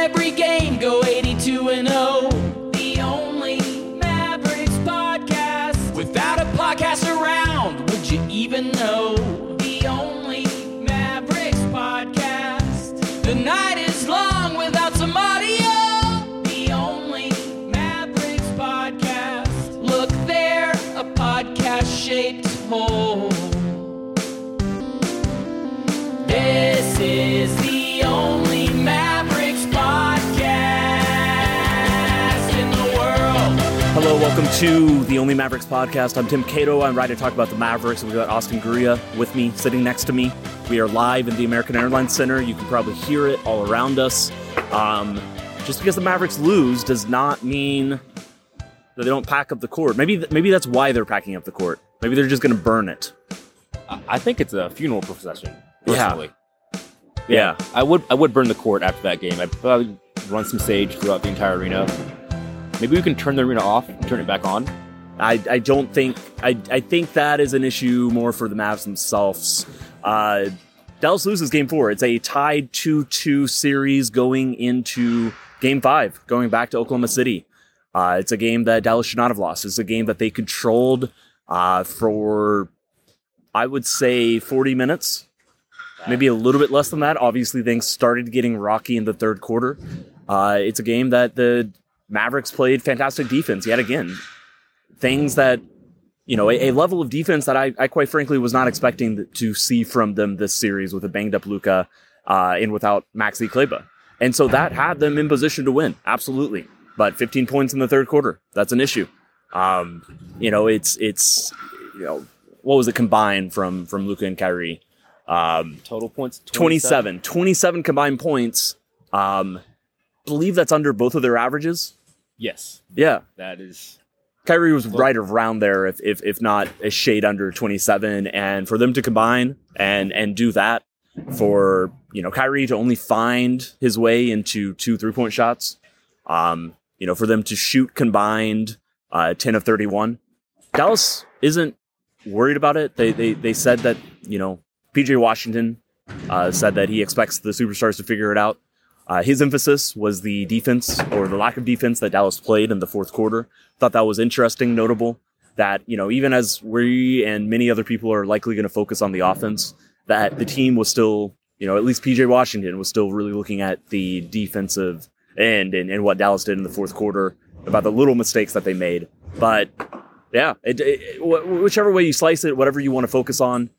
every game, go 82-0. The only Mavericks podcast. Without a podcast around, would you even know? The only Mavericks podcast. The night is long without some audio. The only Mavericks podcast. Look there, a podcast-shaped hole. This is the only Mavericks podcast in the world. Hello, welcome to the Only Mavericks podcast. I'm Tim Cato. I'm ready to talk about the Mavericks. We've got Austin Guria with me, sitting next to me. We are live in the American Airlines Center. You can probably hear it all around us. Just because the Mavericks lose does not mean that they don't pack up the court. Maybe that's why they're packing up the court. Maybe they're just going to burn it. I think it's a funeral procession, personally. Yeah. I would burn the court after that game. I'd probably run some sage throughout the entire arena. Maybe we can turn the arena off and turn it back on. I think that is an issue more for the Mavs themselves. Dallas loses game 4. It's a tied 2-2 series going into game 5, going back to Oklahoma City. It's a game that Dallas should not have lost. It's a game that they controlled for, I would say, 40 minutes. Maybe a little bit less than that. Obviously, things started getting rocky in the third quarter. It's a game that the Mavericks played fantastic defense yet again. Things that, a level of defense that I quite frankly was not expecting to see from them this series with a banged up Luka and without Maxi Kleber. And so that had them in position to win. Absolutely. But 15 points in the third quarter, that's an issue. It's what was it combined from Luka and Kyrie? Total points? 27 combined points. Believe that's under both of their averages. Yes. Yeah. That is. Kyrie was right around there, if not a shade under 27. And for them to combine and do that, for Kyrie to only find his way into 2 3-point shots, for them to shoot combined 10 of 31. Dallas isn't worried about it. They said that PJ Washington said that he expects the superstars to figure it out. His emphasis was the defense, or the lack of defense, that Dallas played in the fourth quarter. Thought that was interesting, notable, that, even as we and many other people are likely going to focus on the offense, that the team was still, at least PJ Washington was still really looking at the defensive end and what Dallas did in the fourth quarter, about the little mistakes that they made. But, yeah, whichever way you slice it, whatever you want to focus on,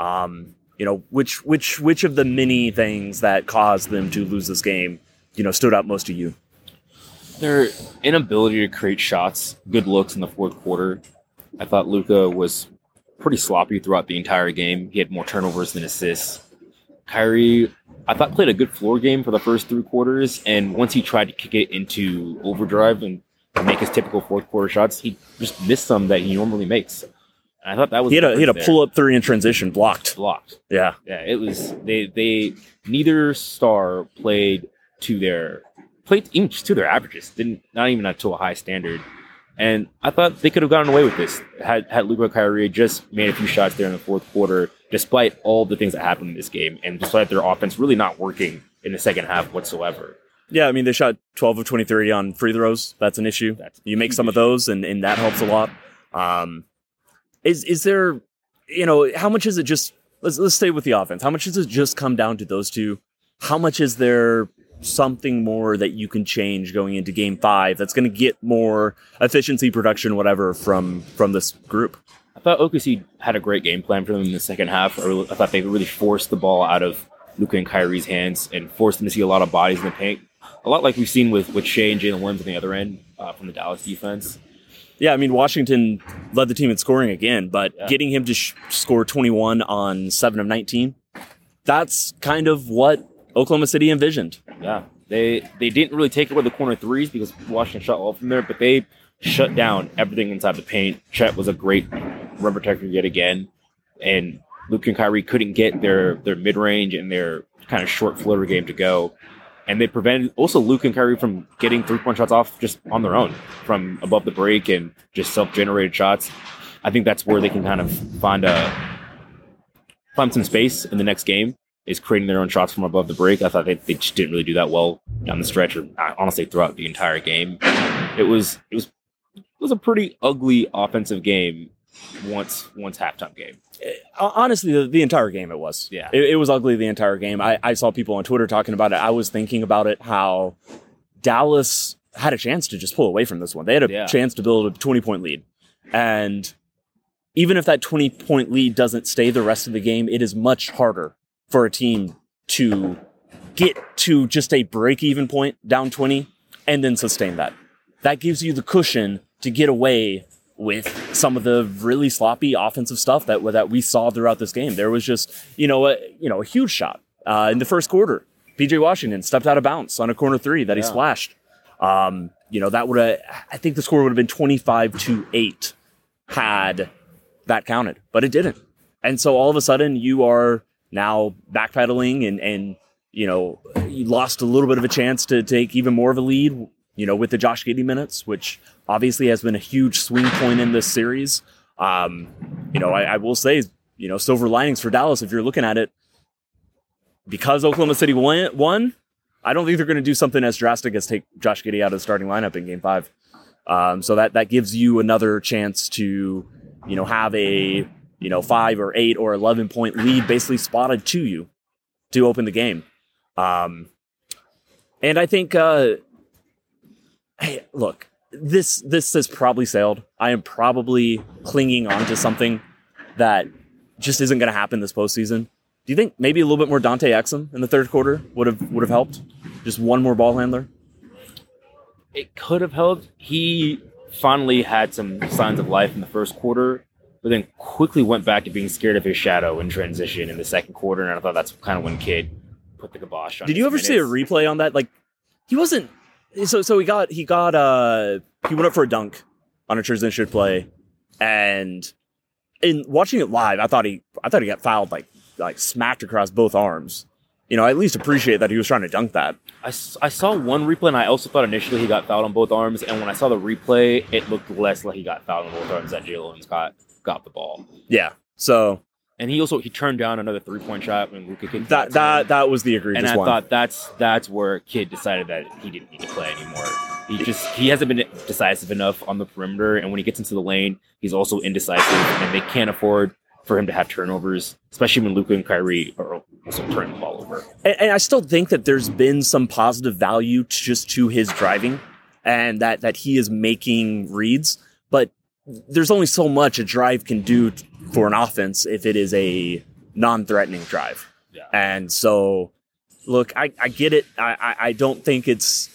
which of the many things that caused them to lose this game, stood out most to you? Their inability to create shots, good looks in the fourth quarter. I thought Luka was pretty sloppy throughout the entire game. He had more turnovers than assists. Kyrie, I thought, played a good floor game for the first 3 quarters, and once he tried to kick it into overdrive and make his typical fourth quarter shots, he just missed some that he normally makes. I thought that was he had a pull-up 3 in transition blocked. Yeah. It was they neither star played to their averages, not even to a high standard. And I thought they could have gotten away with this had Luka and Kyrie just made a few shots there in the fourth quarter, despite all the things that happened in this game, and despite their offense really not working in the second half whatsoever. Yeah, I mean, they shot 12 of 23 on free throws. That's an issue. You make some of those, and that helps a lot. Is there, how much is it just, let's stay with the offense. How much does it just come down to those two? How much is there something more that you can change going into game 5 that's going to get more efficiency, production, whatever from this group? I thought OKC had a great game plan for them in the second half. I thought they really forced the ball out of Luka and Kyrie's hands and forced them to see a lot of bodies in the paint. A lot like we've seen with Shea and Jalen Williams on the other end from the Dallas defense. Yeah, I mean, Washington led the team in scoring again, but getting him to score 21 on 7 of 19, that's kind of what Oklahoma City envisioned. Yeah, they didn't really take away the corner threes because Washington shot well from there, but they shut down everything inside the paint. Chet was a great rim protector yet again, and Luka and Kyrie couldn't get their mid-range and their kind of short floater game to go. And they prevented also Luka and Kyrie from getting 3-point shots off just on their own from above the break and just self-generated shots. I think that's where they can kind of find some space in the next game. is creating their own shots from above the break. I thought they just didn't really do that well down the stretch, or honestly throughout the entire game. It was a pretty ugly offensive game once halftime game. Honestly, the entire game it was. Yeah. It was ugly the entire game. I saw people on Twitter talking about it. I was thinking about it, how Dallas had a chance to just pull away from this one. They had a chance to build a 20-point lead. And even if that 20-point lead doesn't stay the rest of the game, it is much harder for a team to get to just a break-even point, down 20, and then sustain that. That gives you the cushion to get away with some of the really sloppy offensive stuff that we saw throughout this game. There was just, a huge shot in the first quarter. PJ Washington stepped out of bounds on a corner three that he splashed. That would have, I think the score would have been 25-8 had that counted, but it didn't. And so all of a sudden you are now backpedaling and you lost a little bit of a chance to take even more of a lead, with the Josh Giddey minutes, which obviously has been a huge swing point in this series. I will say, silver linings for Dallas, if you're looking at it, because Oklahoma City won, I don't think they're going to do something as drastic as take Josh Giddey out of the starting lineup in Game 5. So that gives you another chance to, have a, 5 or 8 or 11 point lead basically spotted to you to open the game. And I think, hey, look, this has probably sailed. I am probably clinging on to something that just isn't going to happen this postseason. Do you think maybe a little bit more Dante Exum in the third quarter would have helped? Just one more ball handler? It could have helped. He finally had some signs of life in the first quarter, but then quickly went back to being scared of his shadow in transition in the second quarter, and I thought that's kind of when Kidd put the kibosh on. Did you ever see a replay on that? Like, he wasn't. So he went up for a dunk on a transition play, and in watching it live, I thought he got fouled like smacked across both arms. I at least appreciate that he was trying to dunk that. I saw one replay, and I also thought initially he got fouled on both arms. And when I saw the replay, it looked less like he got fouled on both arms than Jalen Scott got the ball. Yeah. So. And he turned down another 3-point shot when Luka Kidd. That was the egregious one. And I thought that's where Kidd decided that he didn't need to play anymore. He hasn't been decisive enough on the perimeter, and when he gets into the lane, he's also indecisive, and they can't afford for him to have turnovers, especially when Luka and Kyrie are also turning the ball over. And I still think that there's been some positive value to his driving, and that he is making reads, but there's only so much a drive can do for an offense if it is a non-threatening drive. Yeah. And so, look, I get it. I don't think it's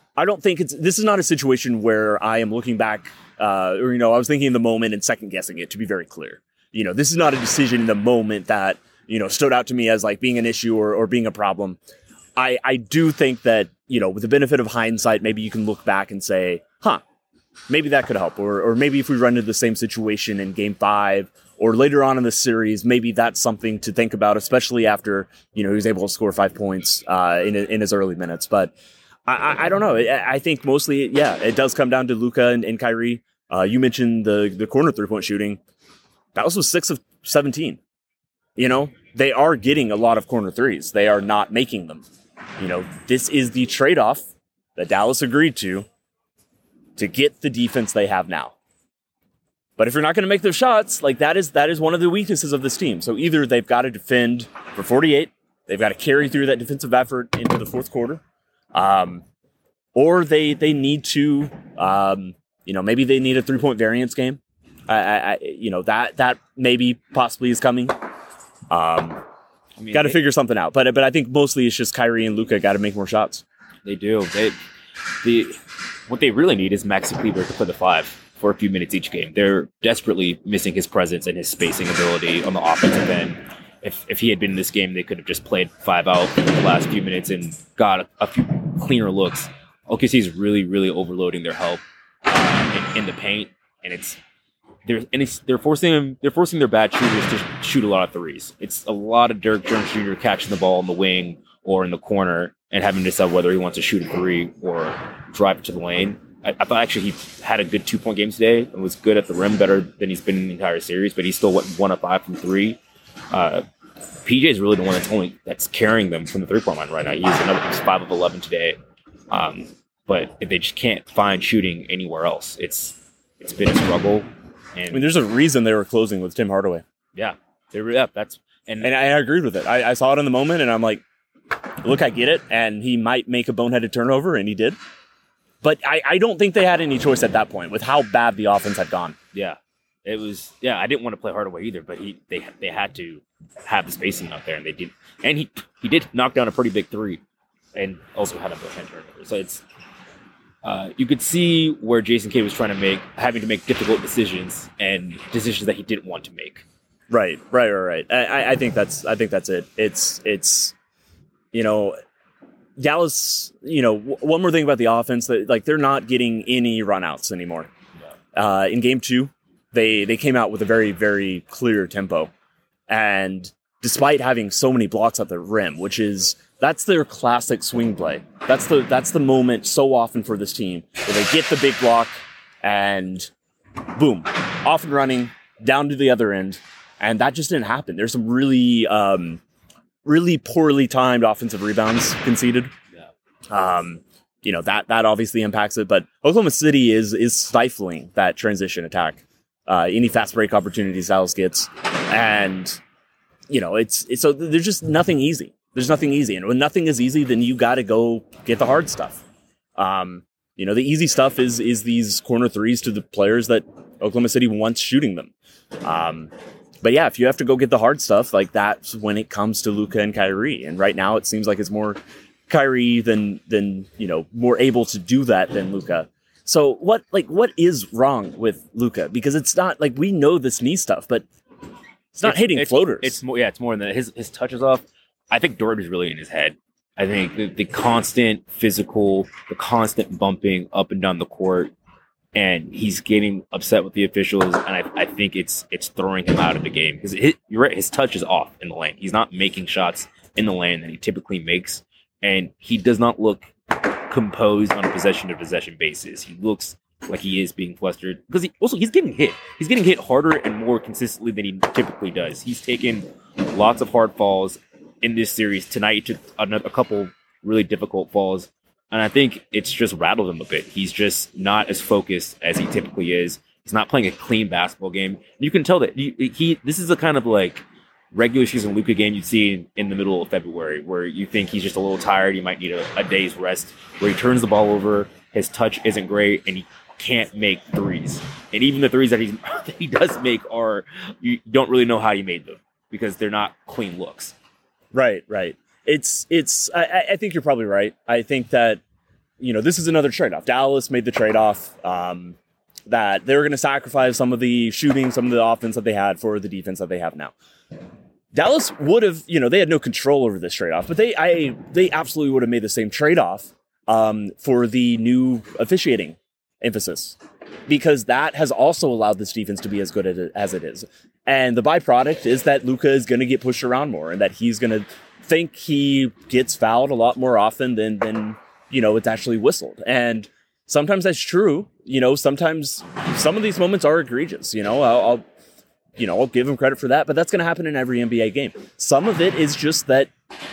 this is not a situation where I am looking back, I was thinking in the moment and second guessing it, to be very clear. This is not a decision in the moment that, stood out to me as like being an issue or being a problem. I do think that, with the benefit of hindsight, maybe you can look back and say, maybe that could help. Or maybe if we run into the same situation in Game 5 or later on in the series, maybe that's something to think about, especially after, he was able to score 5 points in his early minutes. But I don't know. I think mostly, it does come down to Luka and Kyrie. You mentioned the corner 3-point shooting. Dallas was 6 of 17. They are getting a lot of corner threes. They are not making them. This is the trade-off that Dallas agreed to get the defense they have now. But if you're not going to make those shots, like that is one of the weaknesses of this team. So either they've got to defend for 48, they've got to carry through that defensive effort into the fourth quarter, or they need to, maybe they need a 3-point variance game. That maybe possibly is coming. Got to figure something out. But I think mostly it's just Kyrie and Luka got to make more shots. They do. What they really need is Maxi Kleber to play the 5 for a few minutes each game. They're desperately missing his presence and his spacing ability on the offensive end. If he had been in this game, they could have just played 5 out for the last few minutes and got a few cleaner looks. OKC is really, really overloading their help in the paint, and they're forcing their bad shooters to shoot a lot of threes. It's a lot of Derek Jones Jr. catching the ball in the wing or in the corner and having to decide whether he wants to shoot a 3 or drive it to the lane. I thought actually he had a good 2-point game today and was good at the rim, better than he's been in the entire series, but he still went 1 of 5 from 3. PJ is really the one that's carrying them from the 3-point line right now. He's 5 of 11 today. But they just can't find shooting anywhere else. It's been a struggle. And I mean, there's a reason they were closing with Tim Hardaway. Yeah, and I agreed with it. I saw it in the moment, and I'm like, look, I get it, and he might make a boneheaded turnover, and he did. But I don't think they had any choice at that point with how bad the offense had gone. Yeah, it was. Yeah, I didn't want to play Hardaway either, but they had to have the spacing out there, and they did. And he did knock down a pretty big three, and also had a bonehead turnover. So it's. You could see where Jason Kidd was having to make difficult decisions and decisions that he didn't want to make. Right. I think that's it. It's Dallas. One more thing about the offense that they're not getting any runouts anymore. Yeah. In game 2, they came out with a very, very clear tempo, and despite having so many blocks at the rim, that's their classic swing play. That's the moment so often for this team where they get the big block and boom, off and running down to the other end. And that just didn't happen. There's some really, really poorly timed offensive rebounds conceded. Yeah. That obviously impacts it, but Oklahoma City is stifling that transition attack. Any fast break opportunities Dallas gets. And, so there's just nothing easy. There's nothing easy. And when nothing is easy, then you got to go get the hard stuff. The easy stuff is these corner threes to the players that Oklahoma City wants shooting them. But yeah, if you have to go get the hard stuff, that's when it comes to Luka and Kyrie. And right now it seems like it's more Kyrie than more able to do that than Luka. So what is wrong with Luka? Because it's not we know this knee stuff, but it's not hitting floaters. It's more than that. His touch is off. I think Dort is really in his head. I think the constant physical, the constant bumping up and down the court, and he's getting upset with the officials, and I think it's throwing him out of the game. Because you're right, his touch is off in the lane. He's not making shots in the lane that he typically makes, and he does not look composed on a possession-to-possession basis. He looks like he is being flustered. Because he's getting hit. He's getting hit harder and more consistently than he typically does. He's taken lots of hard falls in this series. Tonight he took a couple really difficult falls, and I think it's just rattled him a bit. He's just not as focused as he typically is. He's not playing a clean basketball game. You can tell that this is a kind of regular season Luka game you'd see in the middle of February, where you think he's just a little tired. He might need a day's rest, where he turns the ball over, his touch isn't great, and he can't make threes. And even the threes that he does make you don't really know how he made them because they're not clean looks. Right. I think you're probably right. I think that, this is another trade-off. Dallas made the trade-off that they were going to sacrifice some of the shooting, some of the offense that they had for the defense that they have now. Dallas would have, they had no control over this trade-off, but they absolutely would have made the same trade-off for the new officiating emphasis, because that has also allowed this defense to be as good as it is. And the byproduct is that Luka is going to get pushed around more, and that he's going to think he gets fouled a lot more often than it's actually whistled. And sometimes that's true. Sometimes some of these moments are egregious. I'll give him credit for that, but that's going to happen in every NBA game. Some of it is just that,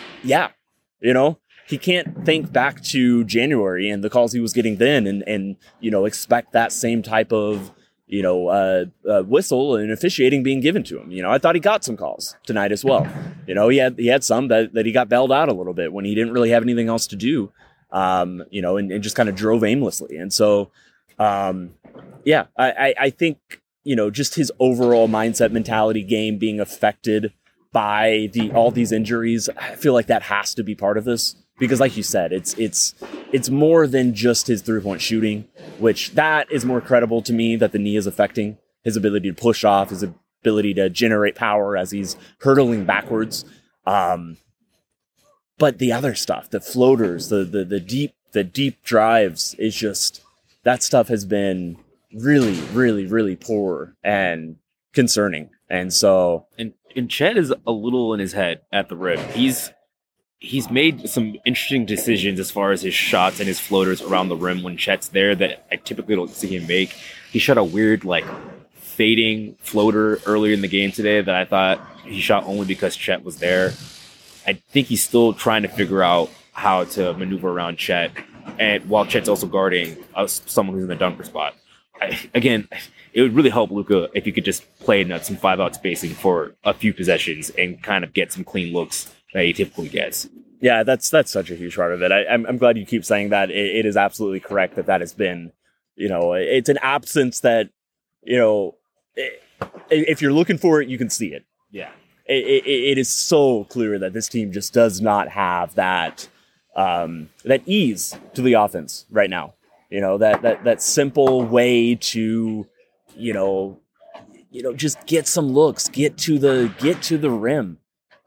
he can't think back to January and the calls he was getting then and expect that same type of, whistle and officiating being given to him. I thought he got some calls tonight as well. He had some that he got bailed out a little bit when he didn't really have anything else to do, and just kind of drove aimlessly. And so, I think, just his overall mindset, mentality, game being affected by all these injuries, I feel like that has to be part of this. Because like you said, it's more than just his 3-point shooting, which that is more credible to me, that the knee is affecting his ability to push off, his ability to generate power as he's hurtling backwards. But the other stuff, the floaters, the deep drives, is just, that stuff has been really, really, really poor and concerning. And so, and Chet is a little in his head at the rim. He's made some interesting decisions as far as his shots and his floaters around the rim when Chet's there that I typically don't see him make. He shot a weird, fading floater earlier in the game today that I thought he shot only because Chet was there. I think he's still trying to figure out how to maneuver around Chet, and while Chet's also guarding someone who's in the dunker spot. Again, it would really help Luka if you could just play in some 5-out spacing for a few possessions and kind of get some clean looks that he typically gets. Yeah, that's such a huge part of it. I'm glad you keep saying that. It is absolutely correct that has been, it's an absence that, if you're looking for it, you can see it. Yeah. It is so clear that this team just does not have that ease to the offense right now. That simple way to, just get some looks, get to the rim.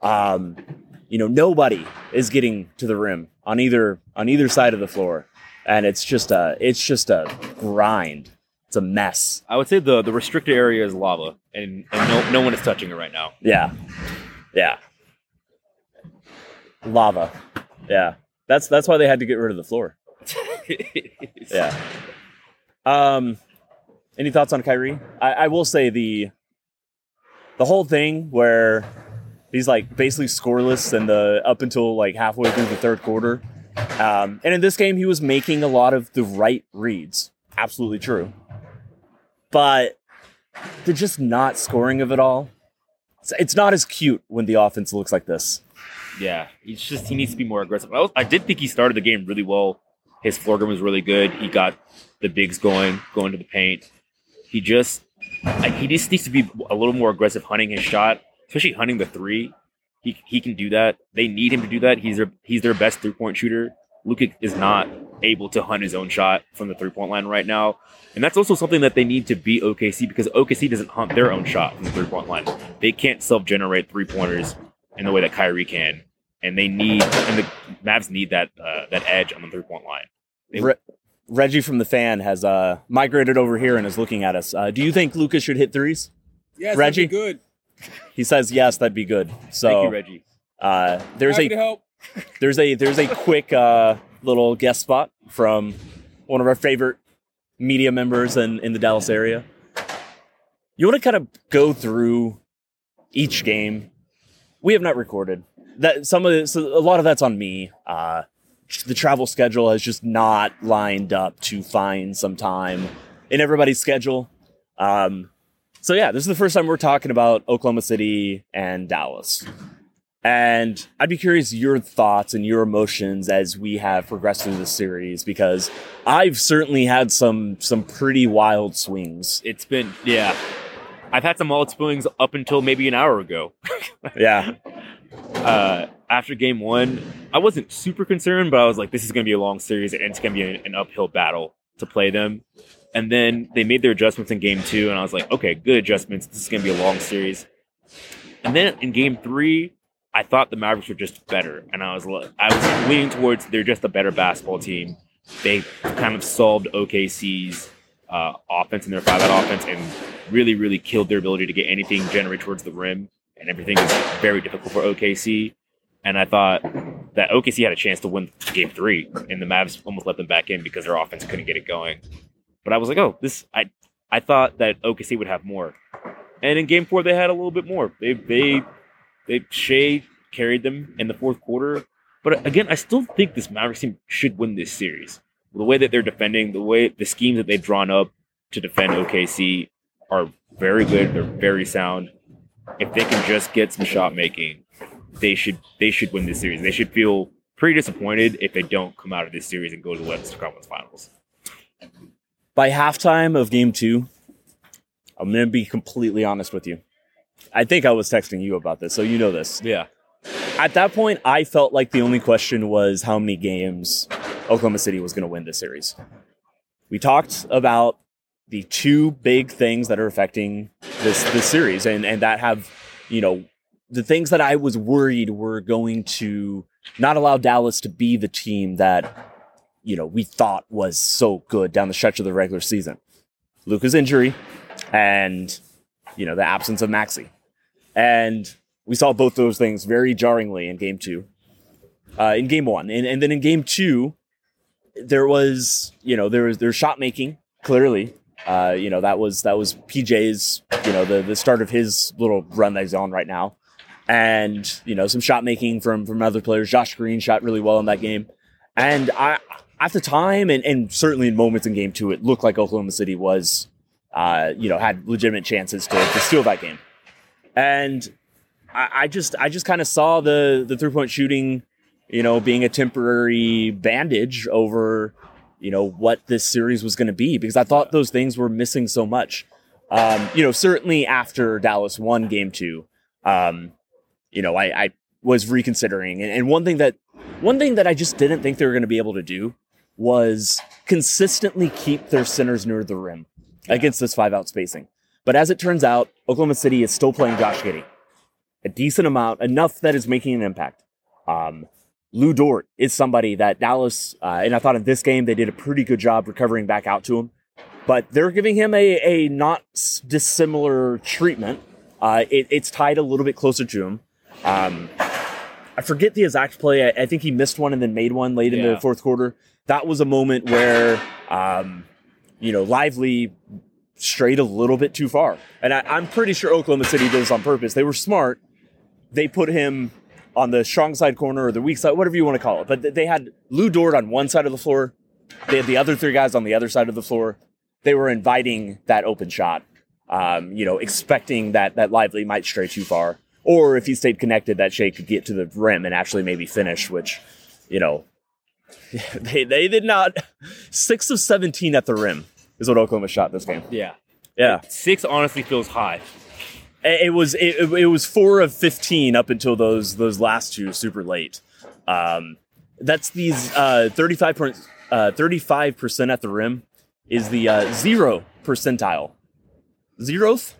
Nobody is getting to the rim on either side of the floor, and it's just a grind. It's a mess. I would say the restricted area is lava, and no one is touching it right now. Yeah. Lava. Yeah. That's why they had to get rid of the floor. Yeah. Any thoughts on Kyrie? I will say the whole thing where he's like basically scoreless and up until like halfway through the third quarter. And in this game, he was making a lot of the right reads. Absolutely true. But the just not scoring of it all, it's not as cute when the offense looks like this. Yeah, he needs to be more aggressive. I did think he started the game really well. His floor game was really good. He got the bigs going to the paint. He just needs to be a little more aggressive hunting his shot, especially hunting the three. He can do that. They need him to do that. He's their best 3-point shooter. Luka is not able to hunt his own shot from the 3-point line right now. And that's also something that they need to beat OKC, because OKC doesn't hunt their own shot from the 3-point line. They can't self-generate 3-pointers in the way that Kyrie can. And the Mavs need that edge on the 3-point line. Reggie from the Fan has migrated over here and is looking at us. Do you think Luka should hit threes? Yes, Reggie? that'd be good. He says yes, that'd be good. So thank you, Reggie. Happy to help. There's a quick little guest spot from one of our favorite media members in the Dallas area. You want to kind of go through each game? We have not recorded that. A lot of that's on me. The travel schedule has just not lined up to find some time in everybody's schedule. So yeah, this is the first time we're talking about Oklahoma City and Dallas. And I'd be curious your thoughts and your emotions as we have progressed through this series, because I've certainly had some pretty wild swings. It's been, yeah. I've had some wild swings up until maybe an hour ago. Yeah. After game one, I wasn't super concerned, but I was like, this is going to be a long series and it's going to be an uphill battle to play them. And then they made their adjustments in game two, and I was like, okay, good adjustments. This is going to be a long series. And then in game three, I thought the Mavericks were just better, and I was leaning towards they're just a better basketball team. They kind of solved OKC's offense and their 5-out offense, and really, really killed their ability to get anything generated towards the rim, and everything is very difficult for OKC. And I thought that OKC had a chance to win game three, and the Mavs almost let them back in because their offense couldn't get it going. But I was like, I thought that OKC would have more. And in game four, they had a little bit more. Shea carried them in the fourth quarter. But again, I still think this Mavericks team should win this series. The way that they're defending, the schemes that they've drawn up to defend OKC are very good. They're very sound. If they can just get some shot making, they should win this series. They should feel pretty disappointed if they don't come out of this series and go to the Western Conference Finals. By halftime of game two, I'm going to be completely honest with you. I think I was texting you about this, so you know this. Yeah. At that point, I felt like the only question was how many games Oklahoma City was going to win this series. We talked about the two big things that are affecting this series, and that have, the things that I was worried were going to not allow Dallas to be the team that, we thought was so good down the stretch of the regular season. Luka's injury and, the absence of Maxey. And we saw both those things very jarringly in game two, in game one. And then in game two, there was shot making, clearly. That was PJ's, the start of his little run that he's on right now. And, some shot making from other players. Josh Green shot really well in that game. And at the time, and certainly in moments in game 2, it looked like Oklahoma City was, had legitimate chances to steal that game. And I just kind of saw the 3-point shooting, being a temporary bandage over, what this series was going to be, because I thought those things were missing so much. Certainly after Dallas won game 2, I was reconsidering. And one thing that I just didn't think they were going to be able to do was consistently keep their centers near the rim against this 5-out spacing. But as it turns out, Oklahoma City is still playing Josh Giddey a decent amount, enough that is making an impact. Lou Dort is somebody that Dallas, and I thought in this game they did a pretty good job recovering back out to him, but they're giving him a not dissimilar treatment. It's tied a little bit closer to him. I forget the exact play. I think he missed one and then made one late in the fourth quarter. That was a moment where, Lively strayed a little bit too far. And I'm pretty sure Oklahoma City did this on purpose. They were smart. They put him on the strong side corner or the weak side, whatever you want to call it. But they had Lou Dort on one side of the floor. They had the other 3 guys on the other side of the floor. They were inviting that open shot, expecting that Lively might stray too far. Or if he stayed connected, that Shea could get to the rim and actually maybe finish, which, they did not. 6 of 17 at the rim is what Oklahoma shot this game. Yeah. 6 honestly feels high. It was 4 of 15 up until those last 2 super late. That's these 35% at the rim is the 0 percentile. Zeroth?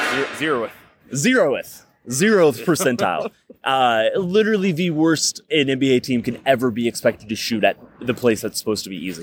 Zeroth percentile. Literally the worst an NBA team can ever be expected to shoot at the place that's supposed to be easy.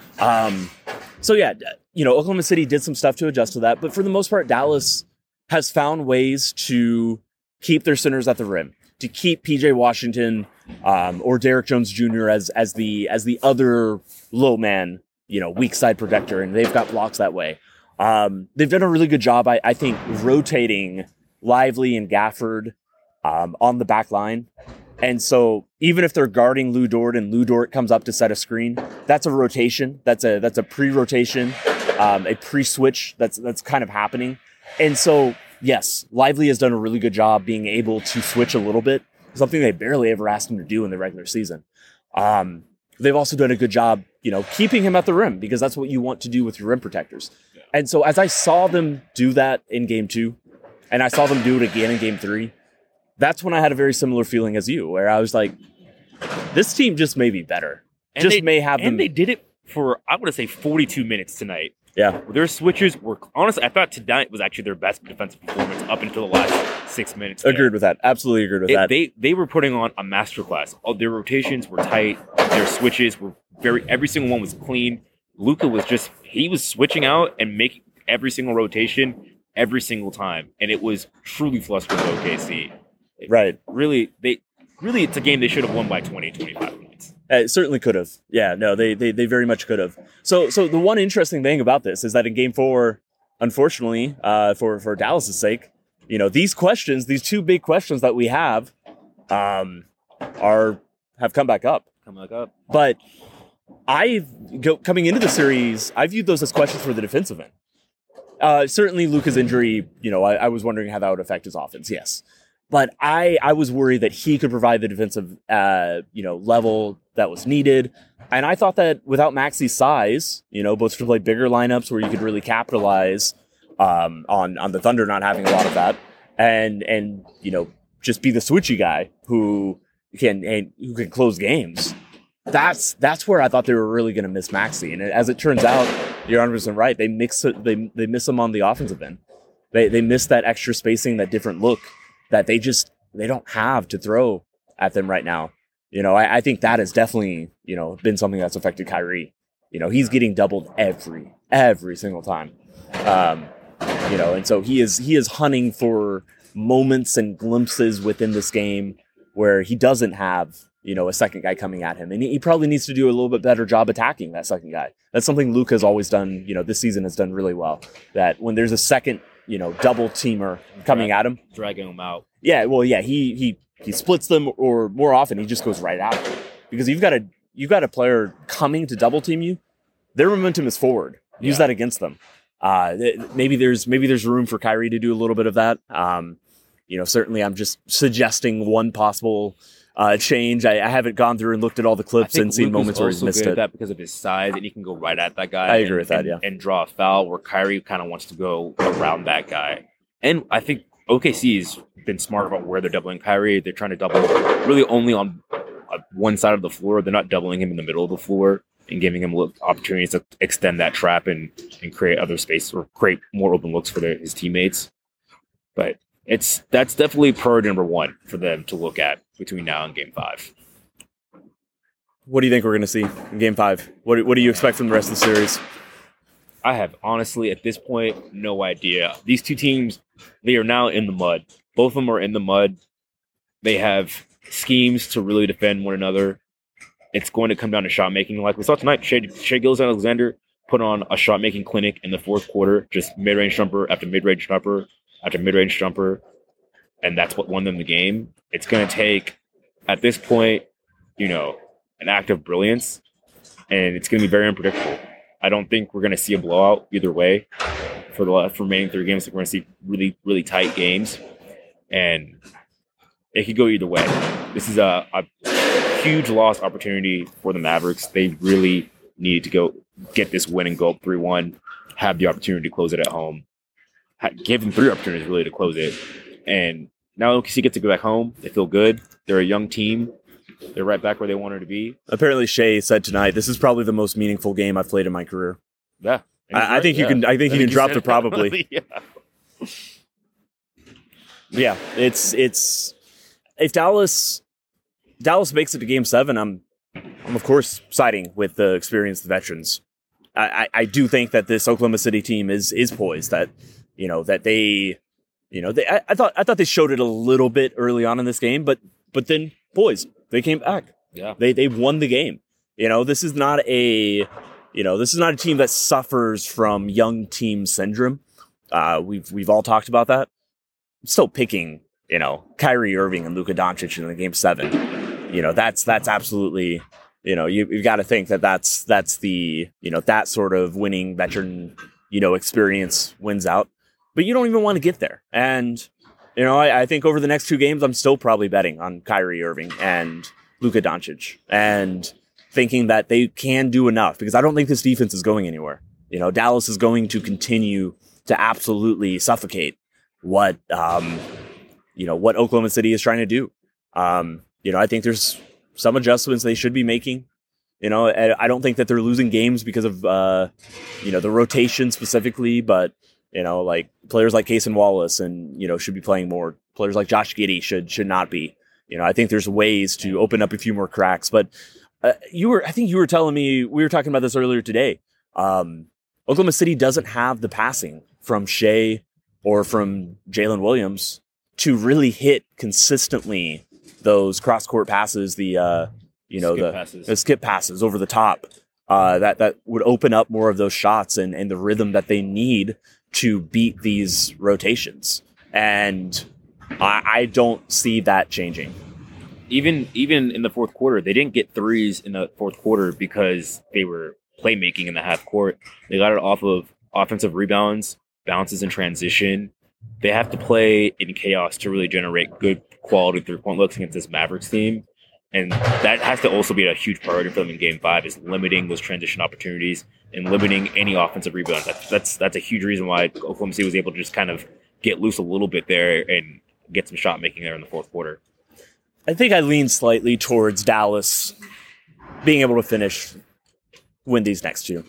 Oklahoma City did some stuff to adjust to that, but for the most part, Dallas has found ways to keep their centers at the rim, to keep PJ Washington or Derrick Jones Jr. as the other low man, weak side protector, and they've got blocks that way. They've done a really good job, I think, rotating Lively and Gafford on the back line. And so even if they're guarding Lou Dort and Lou Dort comes up to set a screen, that's a rotation. That's a pre-rotation, a pre-switch that's kind of happening. And so, yes, Lively has done a really good job being able to switch a little bit, something they barely ever asked him to do in the regular season. They've also done a good job, keeping him at the rim, because that's what you want to do with your rim protectors. Yeah. And so as I saw them do that in game 2, and I saw them do it again in game 3, that's when I had a very similar feeling as you, where I was like, this team just may be better. And they did it for, I want to say, 42 minutes tonight. Yeah. Their switches were, honestly, I thought tonight was actually their best defensive performance up until the last 6 minutes. Agreed with that. Absolutely agreed with that. They were putting on a masterclass. All their rotations were tight. Their switches were every single one was clean. Luka was he was switching out and making every single rotation every single time. And it was truly flustered with OKC. Right. Really, it's a game they should have won by 20, 25 points. It certainly could have. Yeah, no, they very much could have. So the one interesting thing about this is that in game 4, unfortunately, for Dallas's sake, these questions, these 2 big questions that we have have come back up. But coming into the series, I viewed those as questions for the defensive end. Certainly Luka's injury, I was wondering how that would affect his offense, yes. But I was worried that he could provide the defensive, level that was needed. And I thought that without Maxi's size, both to play bigger lineups where you could really capitalize on the Thunder not having a lot of that, and just be the switchy guy who can close games. That's where I thought they were really going to miss Maxi. And as it turns out, you're 100% right. They miss him on the offensive end. They miss that extra spacing, that different look that they don't have to throw at them right now. I think that has definitely, been something that's affected Kyrie. He's getting doubled every single time. And so he is hunting for moments and glimpses within this game where he doesn't have a second guy coming at him. And he probably needs to do a little bit better job attacking that second guy. That's something Luke has always done, this season has done really well. That when there's a second, double teamer coming at him. Dragging him out. Yeah, well, yeah, he splits them, or more often he just goes right out. Because you've got a player coming to double team you, their momentum is forward. Use that against them. Maybe there's room for Kyrie to do a little bit of that. Certainly I'm just suggesting one possible change. I haven't gone through and looked at all the clips and seen moments where he's missed it. That because of his size, and he can go right at that guy. I agree with that, and draw a foul, where Kyrie kind of wants to go around that guy. And I think OKC's been smart about where they're doubling Kyrie. They're trying to double really only on one side of the floor. They're not doubling him in the middle of the floor and giving him opportunities to extend that trap and create other space or create more open looks for his teammates. But that's definitely priority number one for them to look at between now and Game 5. What do you think we're going to see in Game 5? What do you expect from the rest of the series? I have honestly, at this point, no idea. These two teams, they are now in the mud. Both of them are in the mud. They have schemes to really defend one another. It's going to come down to shot making. Like we saw tonight, Shai Gilgeous-Alexander put on a shot making clinic in the fourth quarter, just mid-range jumper after mid-range jumper after mid-range jumper, and that's what won them the game. It's going to take, at this point, an act of brilliance, and it's going to be very unpredictable. I don't think we're going to see a blowout either way for the remaining 3 games. We're going to see really, really tight games, and it could go either way. This is a huge lost opportunity for the Mavericks. They really need to go get this win and go up 3-1, have the opportunity to close it at home, give them 3 opportunities really to close it. And now OKC gets to go back home. They feel good. They're a young team. They're right back where they wanted to be. Apparently, Shai said tonight, "This is probably the most meaningful game I've played in my career." Yeah, I think you can. I think you can drop the probably. Yeah, it's if Dallas makes it to Game 7, I'm of course siding with the experienced veterans. I do think that this Oklahoma City team is poised. That that they I thought they showed it a little bit early on in this game, but then poised. They came back. Yeah. They won the game. This is not a team that suffers from young team syndrome. We've all talked about that. I'm still picking, Kyrie Irving and Luka Doncic in the Game 7. That's absolutely, you've got to think that's the, that sort of winning veteran, experience wins out. But you don't even want to get there. And I think over the next 2 games, I'm still probably betting on Kyrie Irving and Luka Doncic and thinking that they can do enough, because I don't think this defense is going anywhere. Dallas is going to continue to absolutely suffocate what Oklahoma City is trying to do. I think there's some adjustments they should be making. I don't think that they're losing games because of, the rotation specifically, but like players like Cason Wallace and, should be playing more. Players like Josh Giddey should not be. I think there's ways to open up a few more cracks. But I think you were telling me, we were talking about this earlier today. Oklahoma City doesn't have the passing from Shai or from Jalen Williams to really hit consistently those cross-court passes, the skip passes over the top, that would open up more of those shots and the rhythm that they need to beat these rotations. And I don't see that changing. Even in the fourth quarter, they didn't get threes in the fourth quarter because they were playmaking in the half court. They got it off of offensive rebounds, bounces in transition. They have to play in chaos to really generate good quality 3-point looks against this Mavericks team. And that has to also be a huge priority for them in Game 5, is limiting those transition opportunities and limiting any offensive rebounds. That's a huge reason why Oklahoma City was able to just kind of get loose a little bit there and get some shot making there in the fourth quarter. I think I lean slightly towards Dallas being able to win these next 2.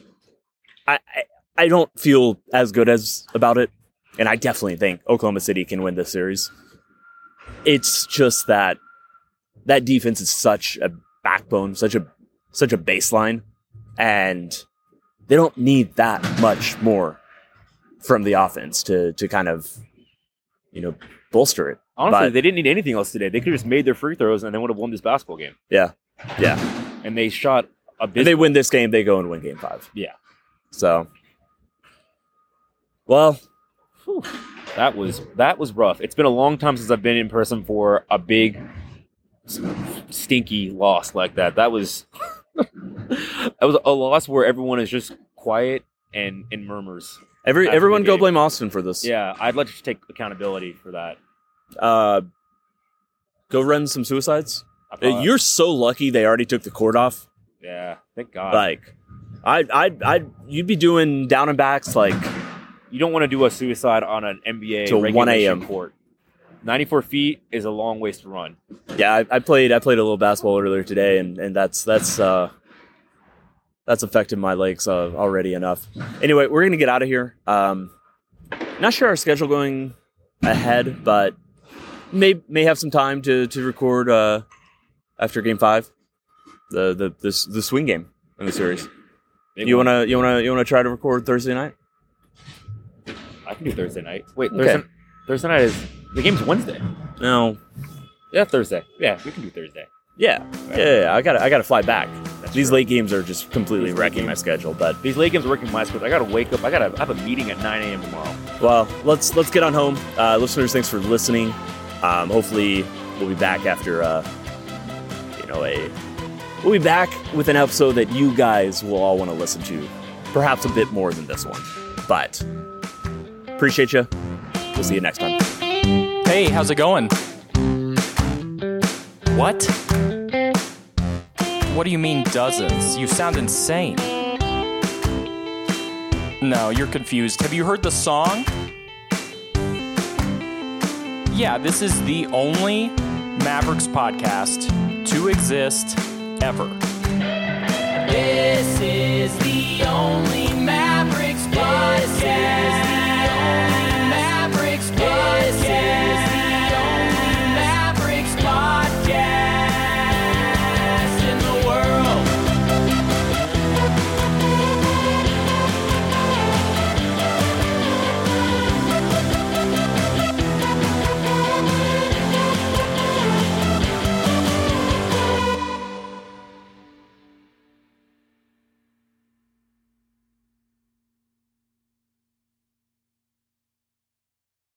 I don't feel as good about it, and I definitely think Oklahoma City can win this series. It's just that defense is such a backbone, such a baseline, and they don't need that much more from the offense to kind of, bolster it. Honestly, But- they didn't need anything else today. They could have just made their free throws and they would have won this basketball game. Yeah. And they shot a bit. If they win this game, they go and win Game 5. Yeah. So, well, That was rough. It's been a long time since I've been in person for a big, stinky loss like that. That was a loss where everyone is just quiet and murmurs. everyone the go game. blame Austin for this. Yeah, I'd like to take accountability for that. Go run some suicides. I thought- You're so lucky they already took the court off. yeah, thank God. Like, you'd be doing down and backs like You don't want to do a suicide on an NBA Till 1 regulation a.m. court. 94 feet is a long ways to run. yeah. I played a little basketball earlier today, and that's affected my legs already enough. Anyway, we're gonna get out of here. Not sure our schedule going ahead, but may have some time to record after Game 5, the swing game in the series. Maybe You wanna try to record Thursday night? I can do Thursday night. Wait, Okay. Thursday night is the game's Wednesday. No. Yeah, Thursday. Yeah, we can do Thursday. Yeah. I gotta fly back. That's These true. late games are just completely These late wrecking my games. schedule. But These late games are working my schedule. I gotta wake up. I have a meeting at 9 a.m. tomorrow. well, let's get on home, listeners. Thanks for listening. Hopefully, we'll be back after we'll be back with an episode that you guys will all want to listen to, perhaps a bit more than this one. But appreciate you. We'll see you next time. Hey, how's it going? What? What do you mean dozens? You sound insane. No, you're confused. Have you heard the song? Yeah, this is the only Mavericks podcast to exist ever. This is the only